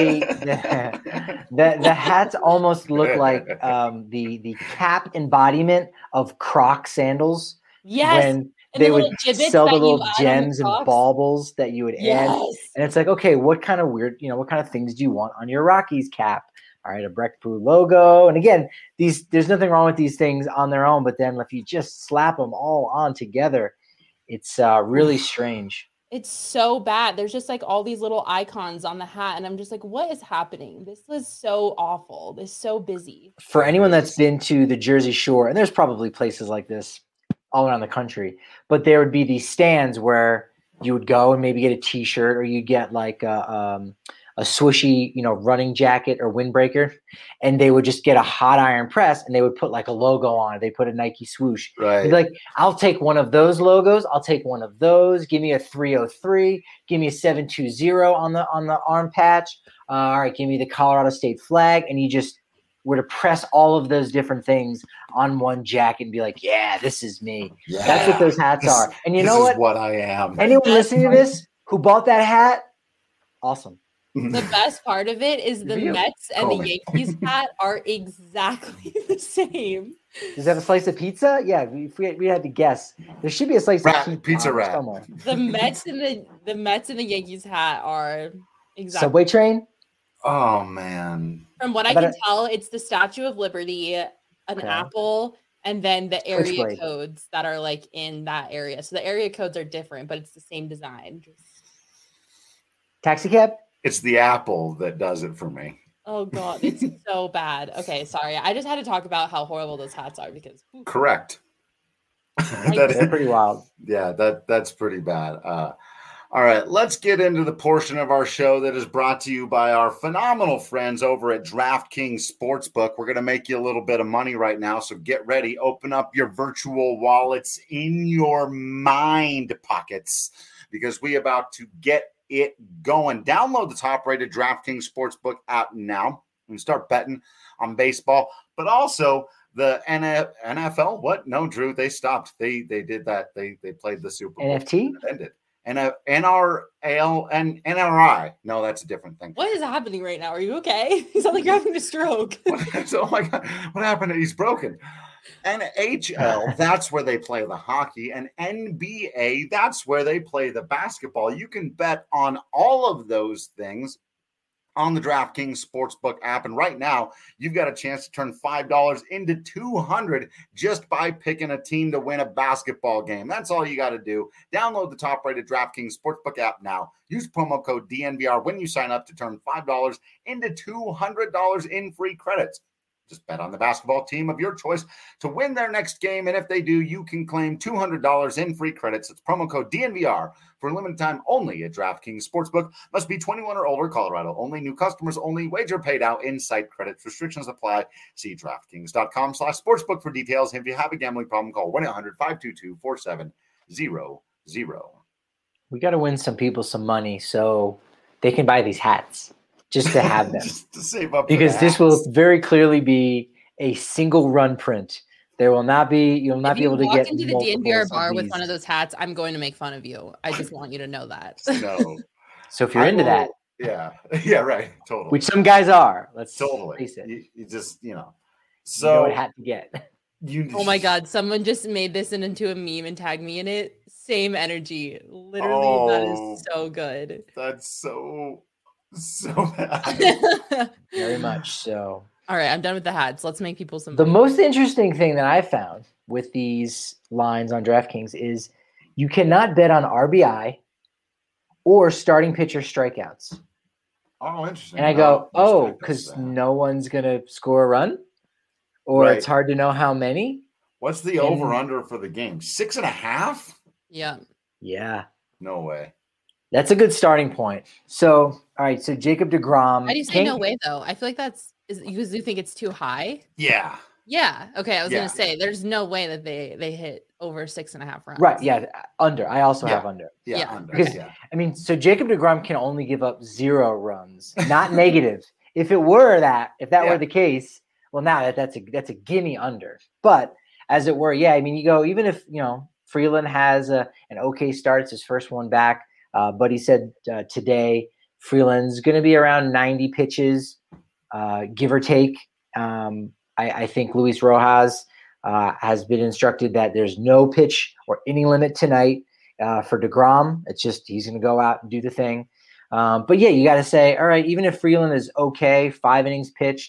The hats almost look like the cap embodiment of Croc sandals. Yes. When and they the would little gibbets sell the that you little add on the gems and Crocs. baubles that you would add. Yes. And it's like, okay, what kind of weird, what kind of things do you want on your Rockies cap? All right, a Breck Brew logo. And again, there's nothing wrong with these things on their own, but then if you just slap them all on together, it's really strange. It's so bad. There's just like all these little icons on the hat. And I'm just like, what is happening? This was so awful. This is so busy. For anyone that's been to the Jersey Shore, and there's probably places like this all around the country, but there would be these stands where you would go and maybe get a t-shirt, or you get like a swooshy, running jacket or windbreaker, and they would just get a hot iron press and they would put like a logo on it. They put a Nike swoosh. Right. You'd be like, I'll take one of those logos. I'll take one of those. Give me a 303. Give me a 720 on the arm patch. All right, give me the Colorado State flag. And you just were to press all of those different things on one jacket and be like, yeah, this is me. Yeah. That's what those hats are. And you know This what? is what I am. Anyone listening to this who bought that hat, awesome. The best part of it is the You. Mets and Call the me. Yankees hat are exactly the same. Does it have a slice of pizza? Yeah, if we had to guess. There should be a slice of Pizza on it rat. somewhere. The Mets and the Yankees hat are exactly. Subway train? Oh man. From what I I bet can tell, it's the Statue of Liberty, an Okay. apple, and then the area Switchblade. codes that are like in that area. So the area codes are different, but it's the same design. Taxi cab? It's the apple that does it for me. Oh god, it's so bad. Okay, sorry. I just had to talk about how horrible those hats are because whew, Correct. They're pretty wild. Yeah, that's pretty bad. All right, let's get into the portion of our show that is brought to you by our phenomenal friends over at DraftKings Sportsbook. We're going to make you a little bit of money right now, so get ready. Open up your virtual wallets in your mind pockets because we about to get it going. Download the top-rated DraftKings Sportsbook app now and start betting on baseball, but also the NFL. What? No, Drew, they stopped. They did that. They played the Super Bowl. NFT? It ended. And NRL and NRI. No, that's a different thing. what is happening right now? Are you okay? You sound like you're having a stroke. Oh my God, what happened? He's broken. NHL, that's where they play the hockey, and NBA, that's where they play the basketball. You can bet on all of those things on the DraftKings Sportsbook app. And right now, you've got a chance to turn $5 into $200 just by picking a team to win a basketball game. That's all you got to do. Download the top-rated DraftKings Sportsbook app now. Use promo code DNVR when you sign up to turn $5 into $200 in free credits. Just bet on the basketball team of your choice to win their next game. And if they do, you can claim $200 in free credits. It's promo code DNVR for a limited time only at DraftKings Sportsbook. Must be 21 or older, Colorado only. New customers only. Wager paid out in site credits. Restrictions apply. See DraftKings.com/sportsbook for details. If you have a gambling problem, call 1-800-522-4700. We got to win some people some money so they can buy these hats just to have them. Just to save up. Because this will very clearly be a single run print. There will not be, you'll not If be you able to walk get into the multiples DNVR of bar with these. one of those hats, I'm going to make fun of you. I just want you to know that. No. So if you're into that, Yeah. Yeah, right. Totally. Which some guys are. Let's totally. face it. You just, So you know what hat to get. Oh my God. Someone just made this into a meme and tagged me in it. Same energy. Literally, that is so good. That's so bad. Very much so. All right, I'm done with the hats. Let's make people some. The most interesting thing that I found with these lines on DraftKings is you cannot bet on RBI or starting pitcher strikeouts. Oh, interesting. And I go, because no one's going to score a run? Or It's hard to know how many? What's the over-under for the game? 6.5? Yeah. Yeah. No way. That's a good starting point. So, all right, so Jacob deGrom. How do you say no way, though? I feel like because you think it's too high? Yeah. Yeah. Okay, I was going to say, there's no way that they hit over 6.5 runs. Right, yeah, under. I also have under. Yeah, under. Because, I mean, so Jacob deGrom can only give up 0 runs, not negative. If that were the case, well, now that's a gimme under. But as it were, I mean, you go, even if, Freeland has an okay start, it's his first one back, but he said today Freeland's going to be around 90 pitches, give or take. I think Luis Rojas has been instructed that there's no pitch or inning limit tonight for deGrom. It's just he's going to go out and do the thing. But you got to say, all right, even if Freeland is okay, 5 innings pitched,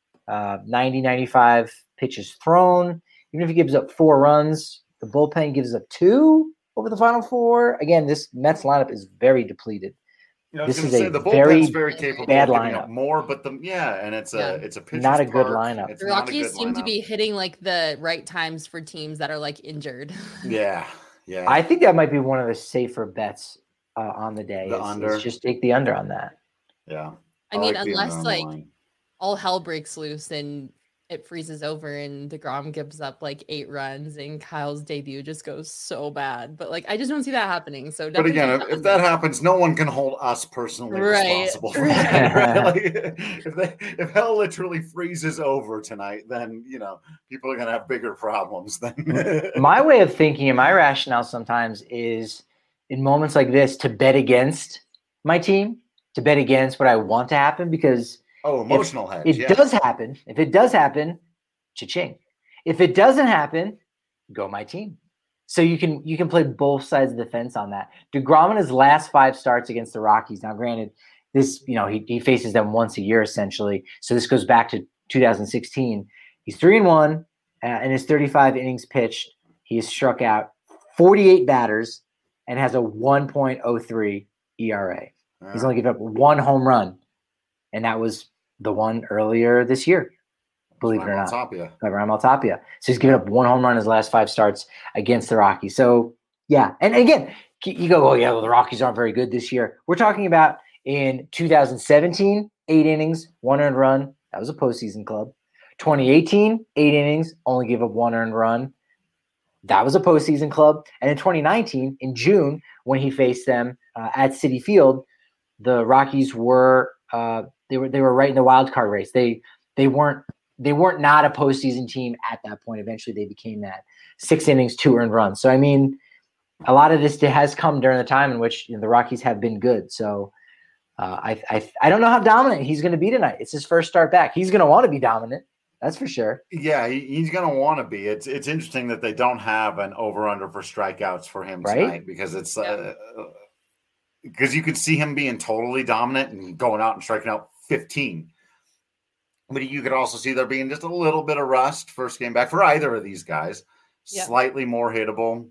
90, 95 pitches thrown, even if he gives up 4 runs, the bullpen gives up 2 over the final 4. Again, this Mets lineup is very depleted. This is the bullpen's very capable bad of giving lineup. up more, but it's a pitcher's not a good park. lineup. The Rockies seem to be hitting like the right times for teams that are like injured. Yeah. I think that might be one of the safer bets on the day. The under. Just take the under on that. Yeah. I mean, unless like all hell breaks loose and it freezes over and deGrom gives up like 8 runs and Kyle's debut just goes so bad. But like, I just don't see that happening. So, but again, if that happens, no one can hold us personally responsible for that. Right? Like, if hell literally freezes over tonight, then people are gonna have bigger problems. Then my way of thinking and my rationale sometimes is in moments like this to bet against my team, to bet against what I want to happen because. Emotional hedge. If it does happen, cha-ching. If it doesn't happen, go my team. So you can play both sides of the fence on that. deGrom in his last 5 starts against the Rockies. Now, granted, this he faces them once a year essentially. So this goes back to 2016. He's 3-1 in his 35 innings pitched. He has struck out 48 batters and has a 1.03 ERA. He's only given up 1 home run, and that was the one earlier this year, believe it or not. Raimel Tapia. So he's given up 1 home run in his last 5 starts against the Rockies. So, yeah. And again, you go, the Rockies aren't very good this year. We're talking about in 2017, 8 innings, 1 earned run. That was a postseason club. 2018, 8 innings, only gave up 1 earned run. That was a postseason club. And in 2019, in June, when he faced them at Citi Field, the Rockies were they were right in the wild card race. They weren't not a postseason team at that point. Eventually, they became that. 6 innings, 2 earned runs. So I mean, a lot of this has come during the time in which the Rockies have been good. So I don't know how dominant he's going to be tonight. It's his first start back. He's going to want to be dominant. That's for sure. Yeah, he's going to want to be. It's interesting that they don't have an over/under for strikeouts for him tonight because it's because you could see him being totally dominant and going out and striking out 15. But you could also see there being just a little bit of rust first game back for either of these guys. Yep. Slightly more hittable.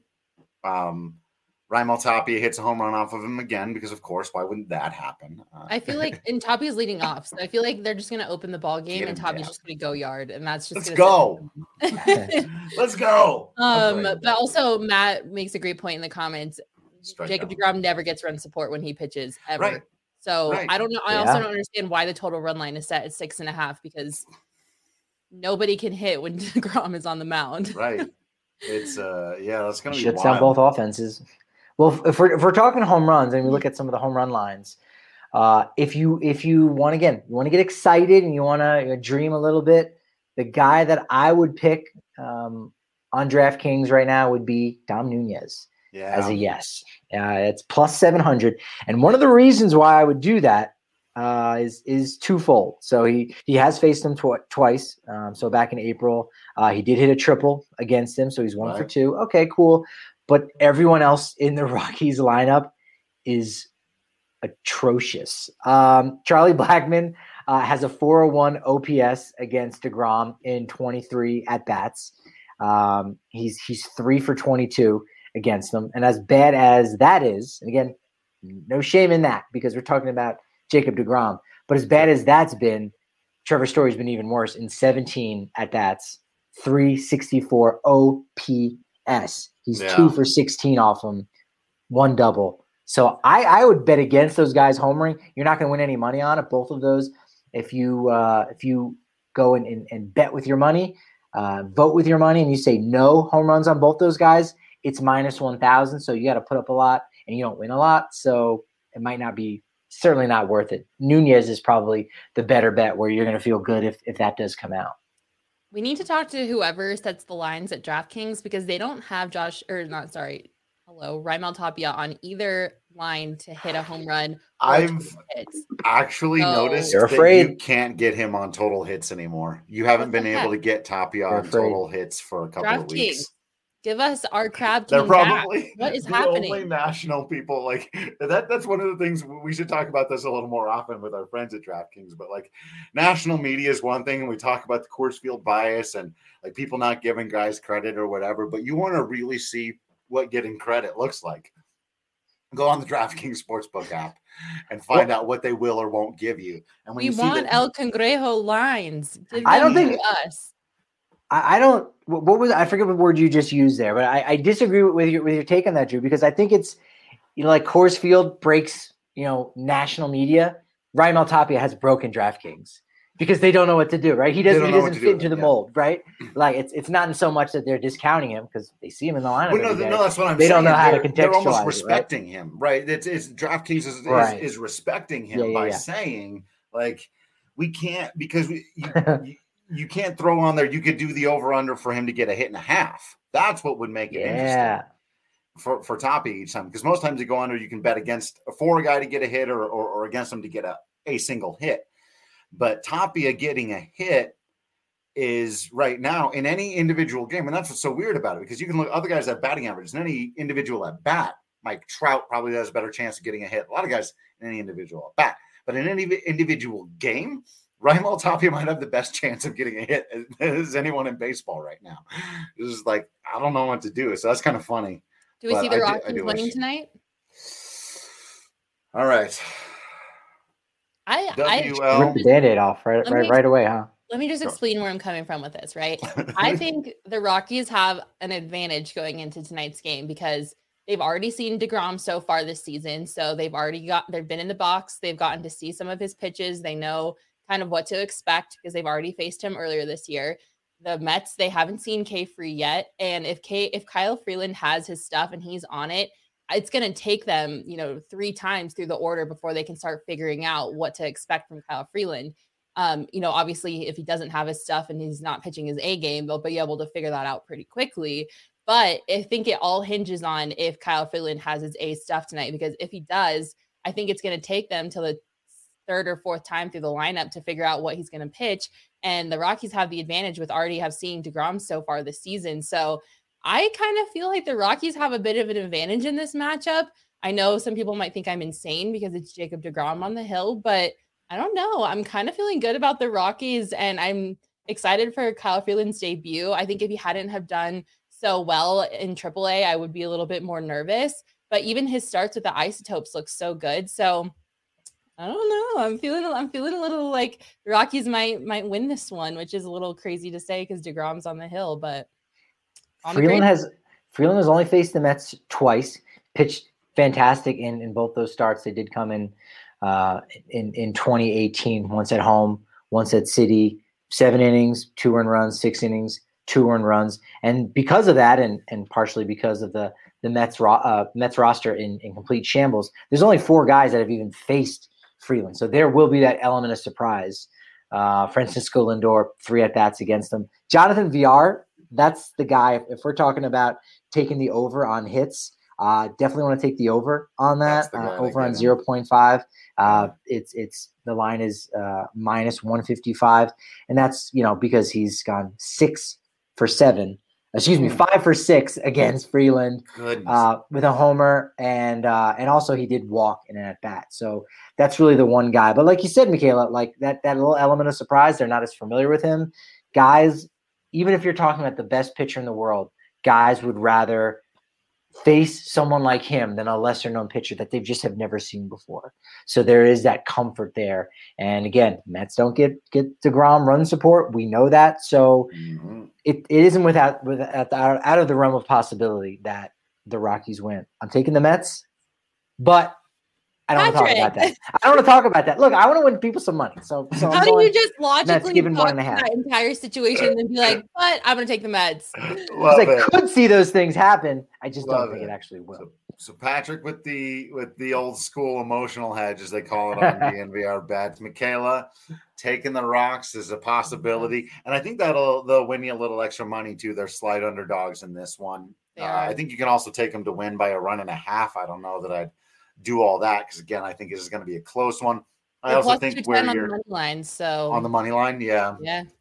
Raimel Tapia hits a home run off of him again because, of course, why wouldn't that happen? I feel like, and Tapia's leading off, so I feel like they're just going to open the ball game and Tapia's just going to go yard, and that's just let's go. Let's go. But also, Matt makes a great point in the comments. Jacob deGrom never gets run support when he pitches ever. Right. So I don't know. I also don't understand why the total run line is set at 6.5 because nobody can hit when deGrom is on the mound. Right. It's that's going to be shuts down both offenses. Well, if we're talking home runs and we look at some of the home run lines, if you want to get excited and you want to dream a little bit, the guy that I would pick on DraftKings right now would be Dom Nunez as a yes. It's plus 700, and one of the reasons why I would do that is twofold. So he has faced him twice. So back in April, he did hit a triple against him. So he's 1 for 2. Okay, cool. But everyone else in the Rockies lineup is atrocious. Charlie Blackmon has a 401 OPS against DeGrom in 23 at bats. He's 3 for 22 against them. And as bad as that is, and again, no shame in that because we're talking about Jacob DeGrom, but as bad as that's been, Trevor Story's been even worse in 17 at bats, 364 OPS. He's 2 for 16 off him, 1 double. So I would bet against those guys homering. You're not going to win any money on it. Both of those, if you go and bet with your money, vote with your money, and you say no home runs on both those guys, it's minus 1,000. So you got to put up a lot, and you don't win a lot. So it might not be, certainly not worth it. Nunez is probably the better bet where you're going to feel good if that does come out. We need to talk to whoever sets the lines at DraftKings because they don't have Raimel Tapia on either line to hit a home run. I've actually noticed that you can't get him on total hits anymore. You haven't been able to get Tapia on total hits for a couple of weeks. Give us our crab king. They're probably back. What is happening? Only national people like that. That's one of the things we should talk about this a little more often with our friends at DraftKings. But like national media is one thing, and we talk about the course field bias and like people not giving guys credit or whatever. But you want to really see what getting credit looks like. Go on the DraftKings Sportsbook app and find out what they will or won't give you. And when we want El Cangrejo lines. I don't think us. I don't. What was I forget what word you just used there, but I disagree with your take on that, Drew, because I think it's like Coors Field breaks national media. Raimel Tapia has broken DraftKings because they don't know what to do, right? He doesn't fit into the mold, right? Like it's not so much that they're discounting him because they see him in the lineup. Well, no, that's what I'm saying. They don't know how to contextualize. They're almost respecting him, right? It's DraftKings is respecting him by saying like we can't because you can't throw on there. You could do the over-under for him to get a hit and a half. That's what would make it interesting for Tapia each time. Because most times you go under, you can bet for a guy to get a hit or against him to get a single hit. But Tapia getting a hit is right now in any individual game. And that's what's so weird about it because you can look at other guys that have batting averages. In any individual at bat, Mike Trout probably has a better chance of getting a hit. A lot of guys in any individual at bat. But in any individual game, Raimel Tapia might have the best chance of getting a hit as anyone in baseball right now. It's just like, I don't know what to do. So that's kind of funny. Do we see the Rockies winning tonight? All right. I rip the Band-Aid off right away, huh? Let me just explain where I'm coming from with this, right? I think the Rockies have an advantage going into tonight's game because they've already seen DeGrom so far this season. So they've been in the box. They've gotten to see some of his pitches. They know kind of what to expect because they've already faced him earlier this year. The Mets, they haven't seen K-Free yet. And if Kyle Freeland has his stuff and he's on it, it's going to take them, 3 times through the order before they can start figuring out what to expect from Kyle Freeland. Obviously, if he doesn't have his stuff and he's not pitching his A game, they'll be able to figure that out pretty quickly. But I think it all hinges on if Kyle Freeland has his A stuff tonight, because if he does, I think it's going to take them till the 3rd or 4th time through the lineup to figure out what he's going to pitch. And the Rockies have the advantage with already have seen DeGrom so far this season. So I kind of feel like the Rockies have a bit of an advantage in this matchup. I know some people might think I'm insane because it's Jacob DeGrom on the hill, but I don't know. I'm kind of feeling good about the Rockies, and I'm excited for Kyle Freeland's debut. I think if he hadn't have done so well in AAA, I would be a little bit more nervous. But even his starts with the Isotopes look so good. So I don't know. I'm feeling a little like the Rockies might win this one, which is a little crazy to say because DeGrom's on the hill. But Freeland has only faced the Mets twice. Pitched fantastic in both those starts. They did come in 2018, once at home, once at City. 7 innings, 2 earned runs, 6 innings, 2 earned runs. And because of that, and partially because of the Mets roster in complete shambles, there's only 4 guys that have even faced Freeland. So there will be that element of surprise. Francisco Lindor, 3 at-bats against him. Jonathan Villar, that's the guy. If we're talking about taking the over on hits, Definitely want to take the over on that. Over on 0.5. It's the line is minus 155, and that's because he's gone 6 for 7. 5 for 6 against Freeland with a homer, and also he did walk in an at bat. So that's really the one guy. But like you said, Michaela, like that little element of surprise, they're not as familiar with him. Guys, even if you're talking about the best pitcher in the world, guys would rather face someone like him than a lesser known pitcher that they just have never seen before. So there is that comfort there. And again, Mets don't get DeGrom run support. We know that. So it isn't out of the realm of possibility that the Rockies win. I'm taking the Mets, but I don't want to talk about that. I don't want to talk about that. Look, I want to win people some money. So how do you just logically talk about that entire situation and be like, but I'm going to take the Mets? Because I could see those things happen. I just don't think it actually will. So Patrick with the old school emotional hedge, as they call it on DNVR bets. Michaela taking the Rocks is a possibility. And I think they'll win you a little extra money too. They're slight underdogs in this one. I think you can also take them to win by a run and a half. I don't know that I'd do all that because again, I think it is going to be a close one. I also think where you're on the money line, so on the money line, yeah.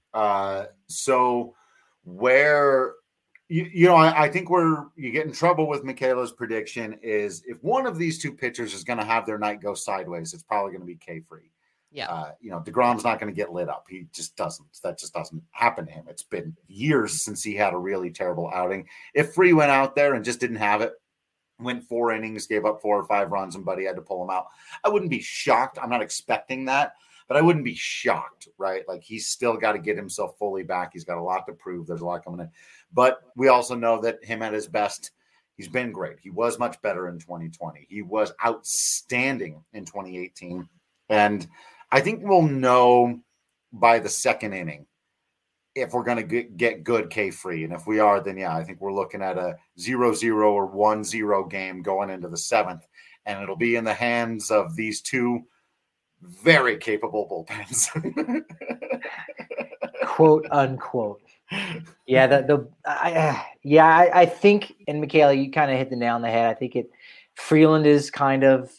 So where I think where you get in trouble with Michaela's prediction is if one of these two pitchers is going to have their night go sideways, it's probably going to be K-Free. Yeah. DeGrom's not going to get lit up. He just doesn't. That just doesn't happen to him. It's been years since he had a really terrible outing. If Free went out there and just didn't have it, went 4 innings, gave up 4 or 5 runs, and Buddy had to pull him out, I wouldn't be shocked. I'm not expecting that, but I wouldn't be shocked, right? Like he's still got to get himself fully back. He's got a lot to prove. There's a lot coming in. But we also know that him at his best, he's been great. He was much better in 2020. He was outstanding in 2018. And I think we'll know by the second inning if we're going to get good K-Free. And if we are, then I think we're looking at a 0-0 or 1-0 game going into the 7th. And it'll be in the hands of these two very capable bullpens. Quote unquote. Yeah. I think, and Michaela, you kind of hit the nail on the head. I think Freeland is kind of,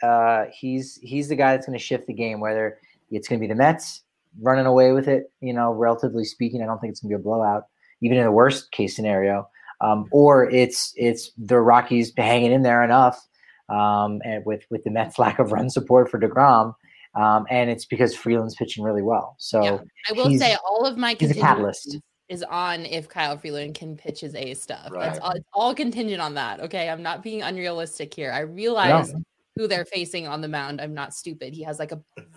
he's the guy that's going to shift the game, whether it's going to be the Mets running away with it, relatively speaking. I don't think it's going to be a blowout, even in the worst case scenario. Or it's the Rockies hanging in there enough, and with the Mets' lack of run support for DeGrom, and it's because Freeland's pitching really well. So I will say all of my he's a catalyst is on if Kyle Freeland can pitch his A stuff. Right. It's all contingent on that. Okay, I'm not being unrealistic here. I realize who they're facing on the mound. I'm not stupid. He has like a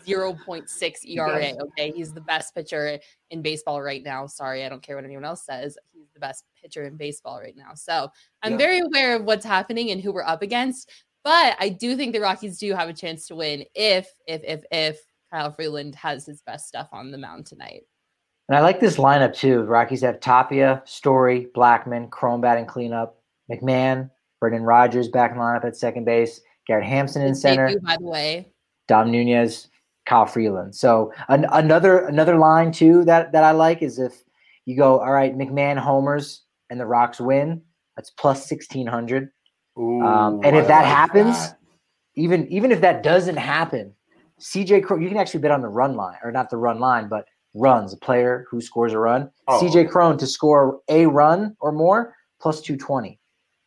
0.6 ERA. Okay. He's the best pitcher in baseball right now. Sorry. I don't care what anyone else says. He's the best pitcher in baseball right now. So I'm very aware of what's happening and who we're up against, but I do think the Rockies do have a chance to win if Kyle Freeland has his best stuff on the mound tonight. And I like this lineup too. The Rockies have Tapia, Story, Blackmon, Cron batting cleanup, McMahon, Brendan Rodgers back in the lineup at second base, Garrett Hampson in center. Debut, by the way, Dom Nunez, Kyle Freeland. So another line too that I like is if you go, all right, McMahon homers and the Rocks win, that's plus 1,600. And if that happens, even if that doesn't happen, CJ Cron, you can actually bet on the run line, or not the run line, but runs, a player who scores a run. CJ Cron to score a run or more, plus 220.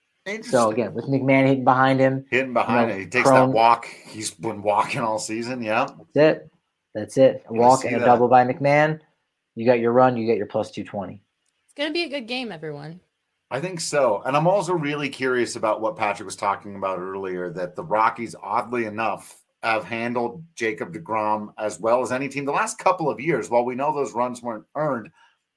So again, with McMahon hitting behind him, he takes that walk. He's been walking all season. Yeah, that's it. A walk and a double by McMahon. You got your run. You get your plus 220. It's gonna be a good game, everyone. I think so. And I'm also really curious about what Patrick was talking about earlier, that the Rockies, oddly enough, have handled Jacob deGrom as well as any team the last couple of years. While we know those runs weren't earned,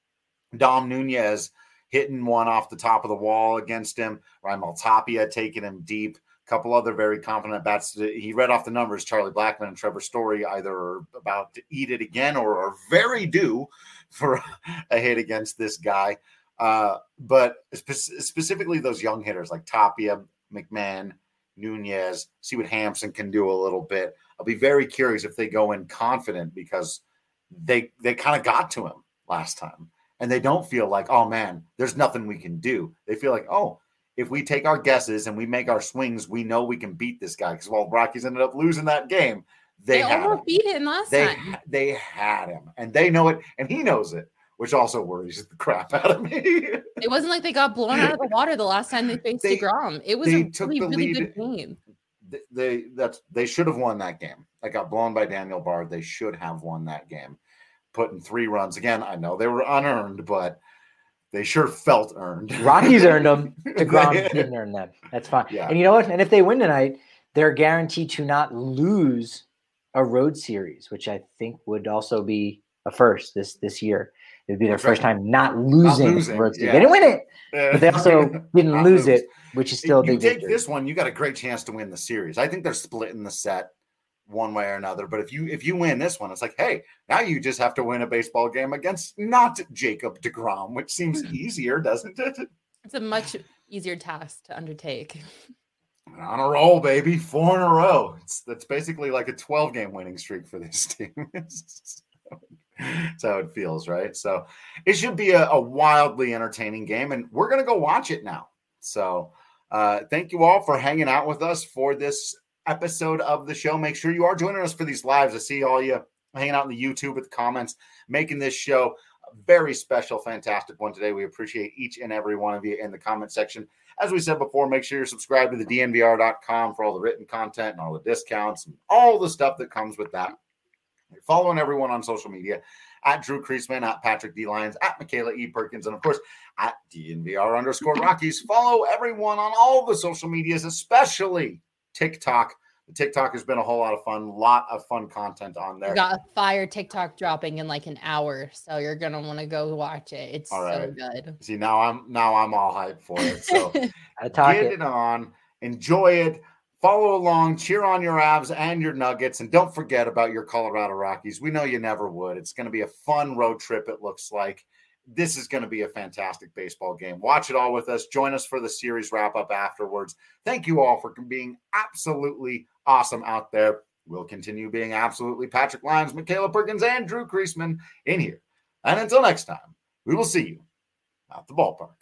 Dom Nunez hitting one off the top of the wall against him, Raimel Tapia taking him deep, a couple other very confident bats. He read off the numbers. Charlie Blackmon and Trevor Story either are about to eat it again or are very due for a hit against this guy. But specifically those young hitters like Tapia, McMahon, Nunez, see what Hampson can do a little bit. I'll be very curious if they go in confident because they kind of got to him last time. And they don't feel like, oh, man, there's nothing we can do. They feel like, oh, if we take our guesses and we make our swings, we know we can beat this guy. Because while Rockies ended up losing that game, they almost beat him last time. They had him, and they know it, and he knows it, which also worries the crap out of me. It wasn't like they got blown out of the water the last time they faced DeGrom. It was a really good game. They should have won that game. They got blown by Daniel Bard. They should have won that game, putting 3 runs. Again, I know they were unearned, but they sure felt earned. Rockies earned them. DeGrom didn't earn them. That's fine. Yeah. And you know what? And if they win tonight, they're guaranteed to not lose a road series, which I think would also be a first this year. It would be their first time not losing. Road series. Yeah. They didn't win it, but they also didn't lose it, which is still a big take victory. This one, you got a great chance to win the series. I think they're splitting the set one way or another. But if you win this one, it's like, hey, now you just have to win a baseball game against not Jacob deGrom, which seems easier, doesn't it? It's a much easier task to undertake. On a roll, baby. 4 in a row. That's basically like a 12-game winning streak for this team. That's how it feels, right? So it should be a wildly entertaining game, and we're going to go watch it now. So thank you all for hanging out with us for this episode of the show. Make sure you are joining us for these lives. I see all you hanging out in the YouTube with the comments, making this show a very special, fantastic one today. We appreciate each and every one of you in the comment section. As we said before, make sure you're subscribed to the DNVR.com for all the written content and all the discounts and all the stuff that comes with that. You're following everyone on social media at Drew Creasman, at Patrick D. Lyons, at Michaela E. Perkins, and of course at DNVR_Rockies. Follow everyone on all the social medias, especially TikTok. The TikTok has been a whole lot of fun. Lot of fun content on there. We got a fire TikTok dropping in like an hour, so you're gonna want to go watch it. It's so good. See, now I'm all hyped for it. So get it on, enjoy it, follow along, cheer on your Avs and your Nuggets, and don't forget about your Colorado Rockies. We know you never would. It's going to be a fun road trip. It looks like this is going to be a fantastic baseball game. Watch it all with us. Join us for the series wrap up afterwards. Thank you all for being absolutely awesome out there. We'll continue being absolutely Patrick Lyons, Michaela Perkins, and Drew Creasman in here. And until next time, we will see you at the ballpark.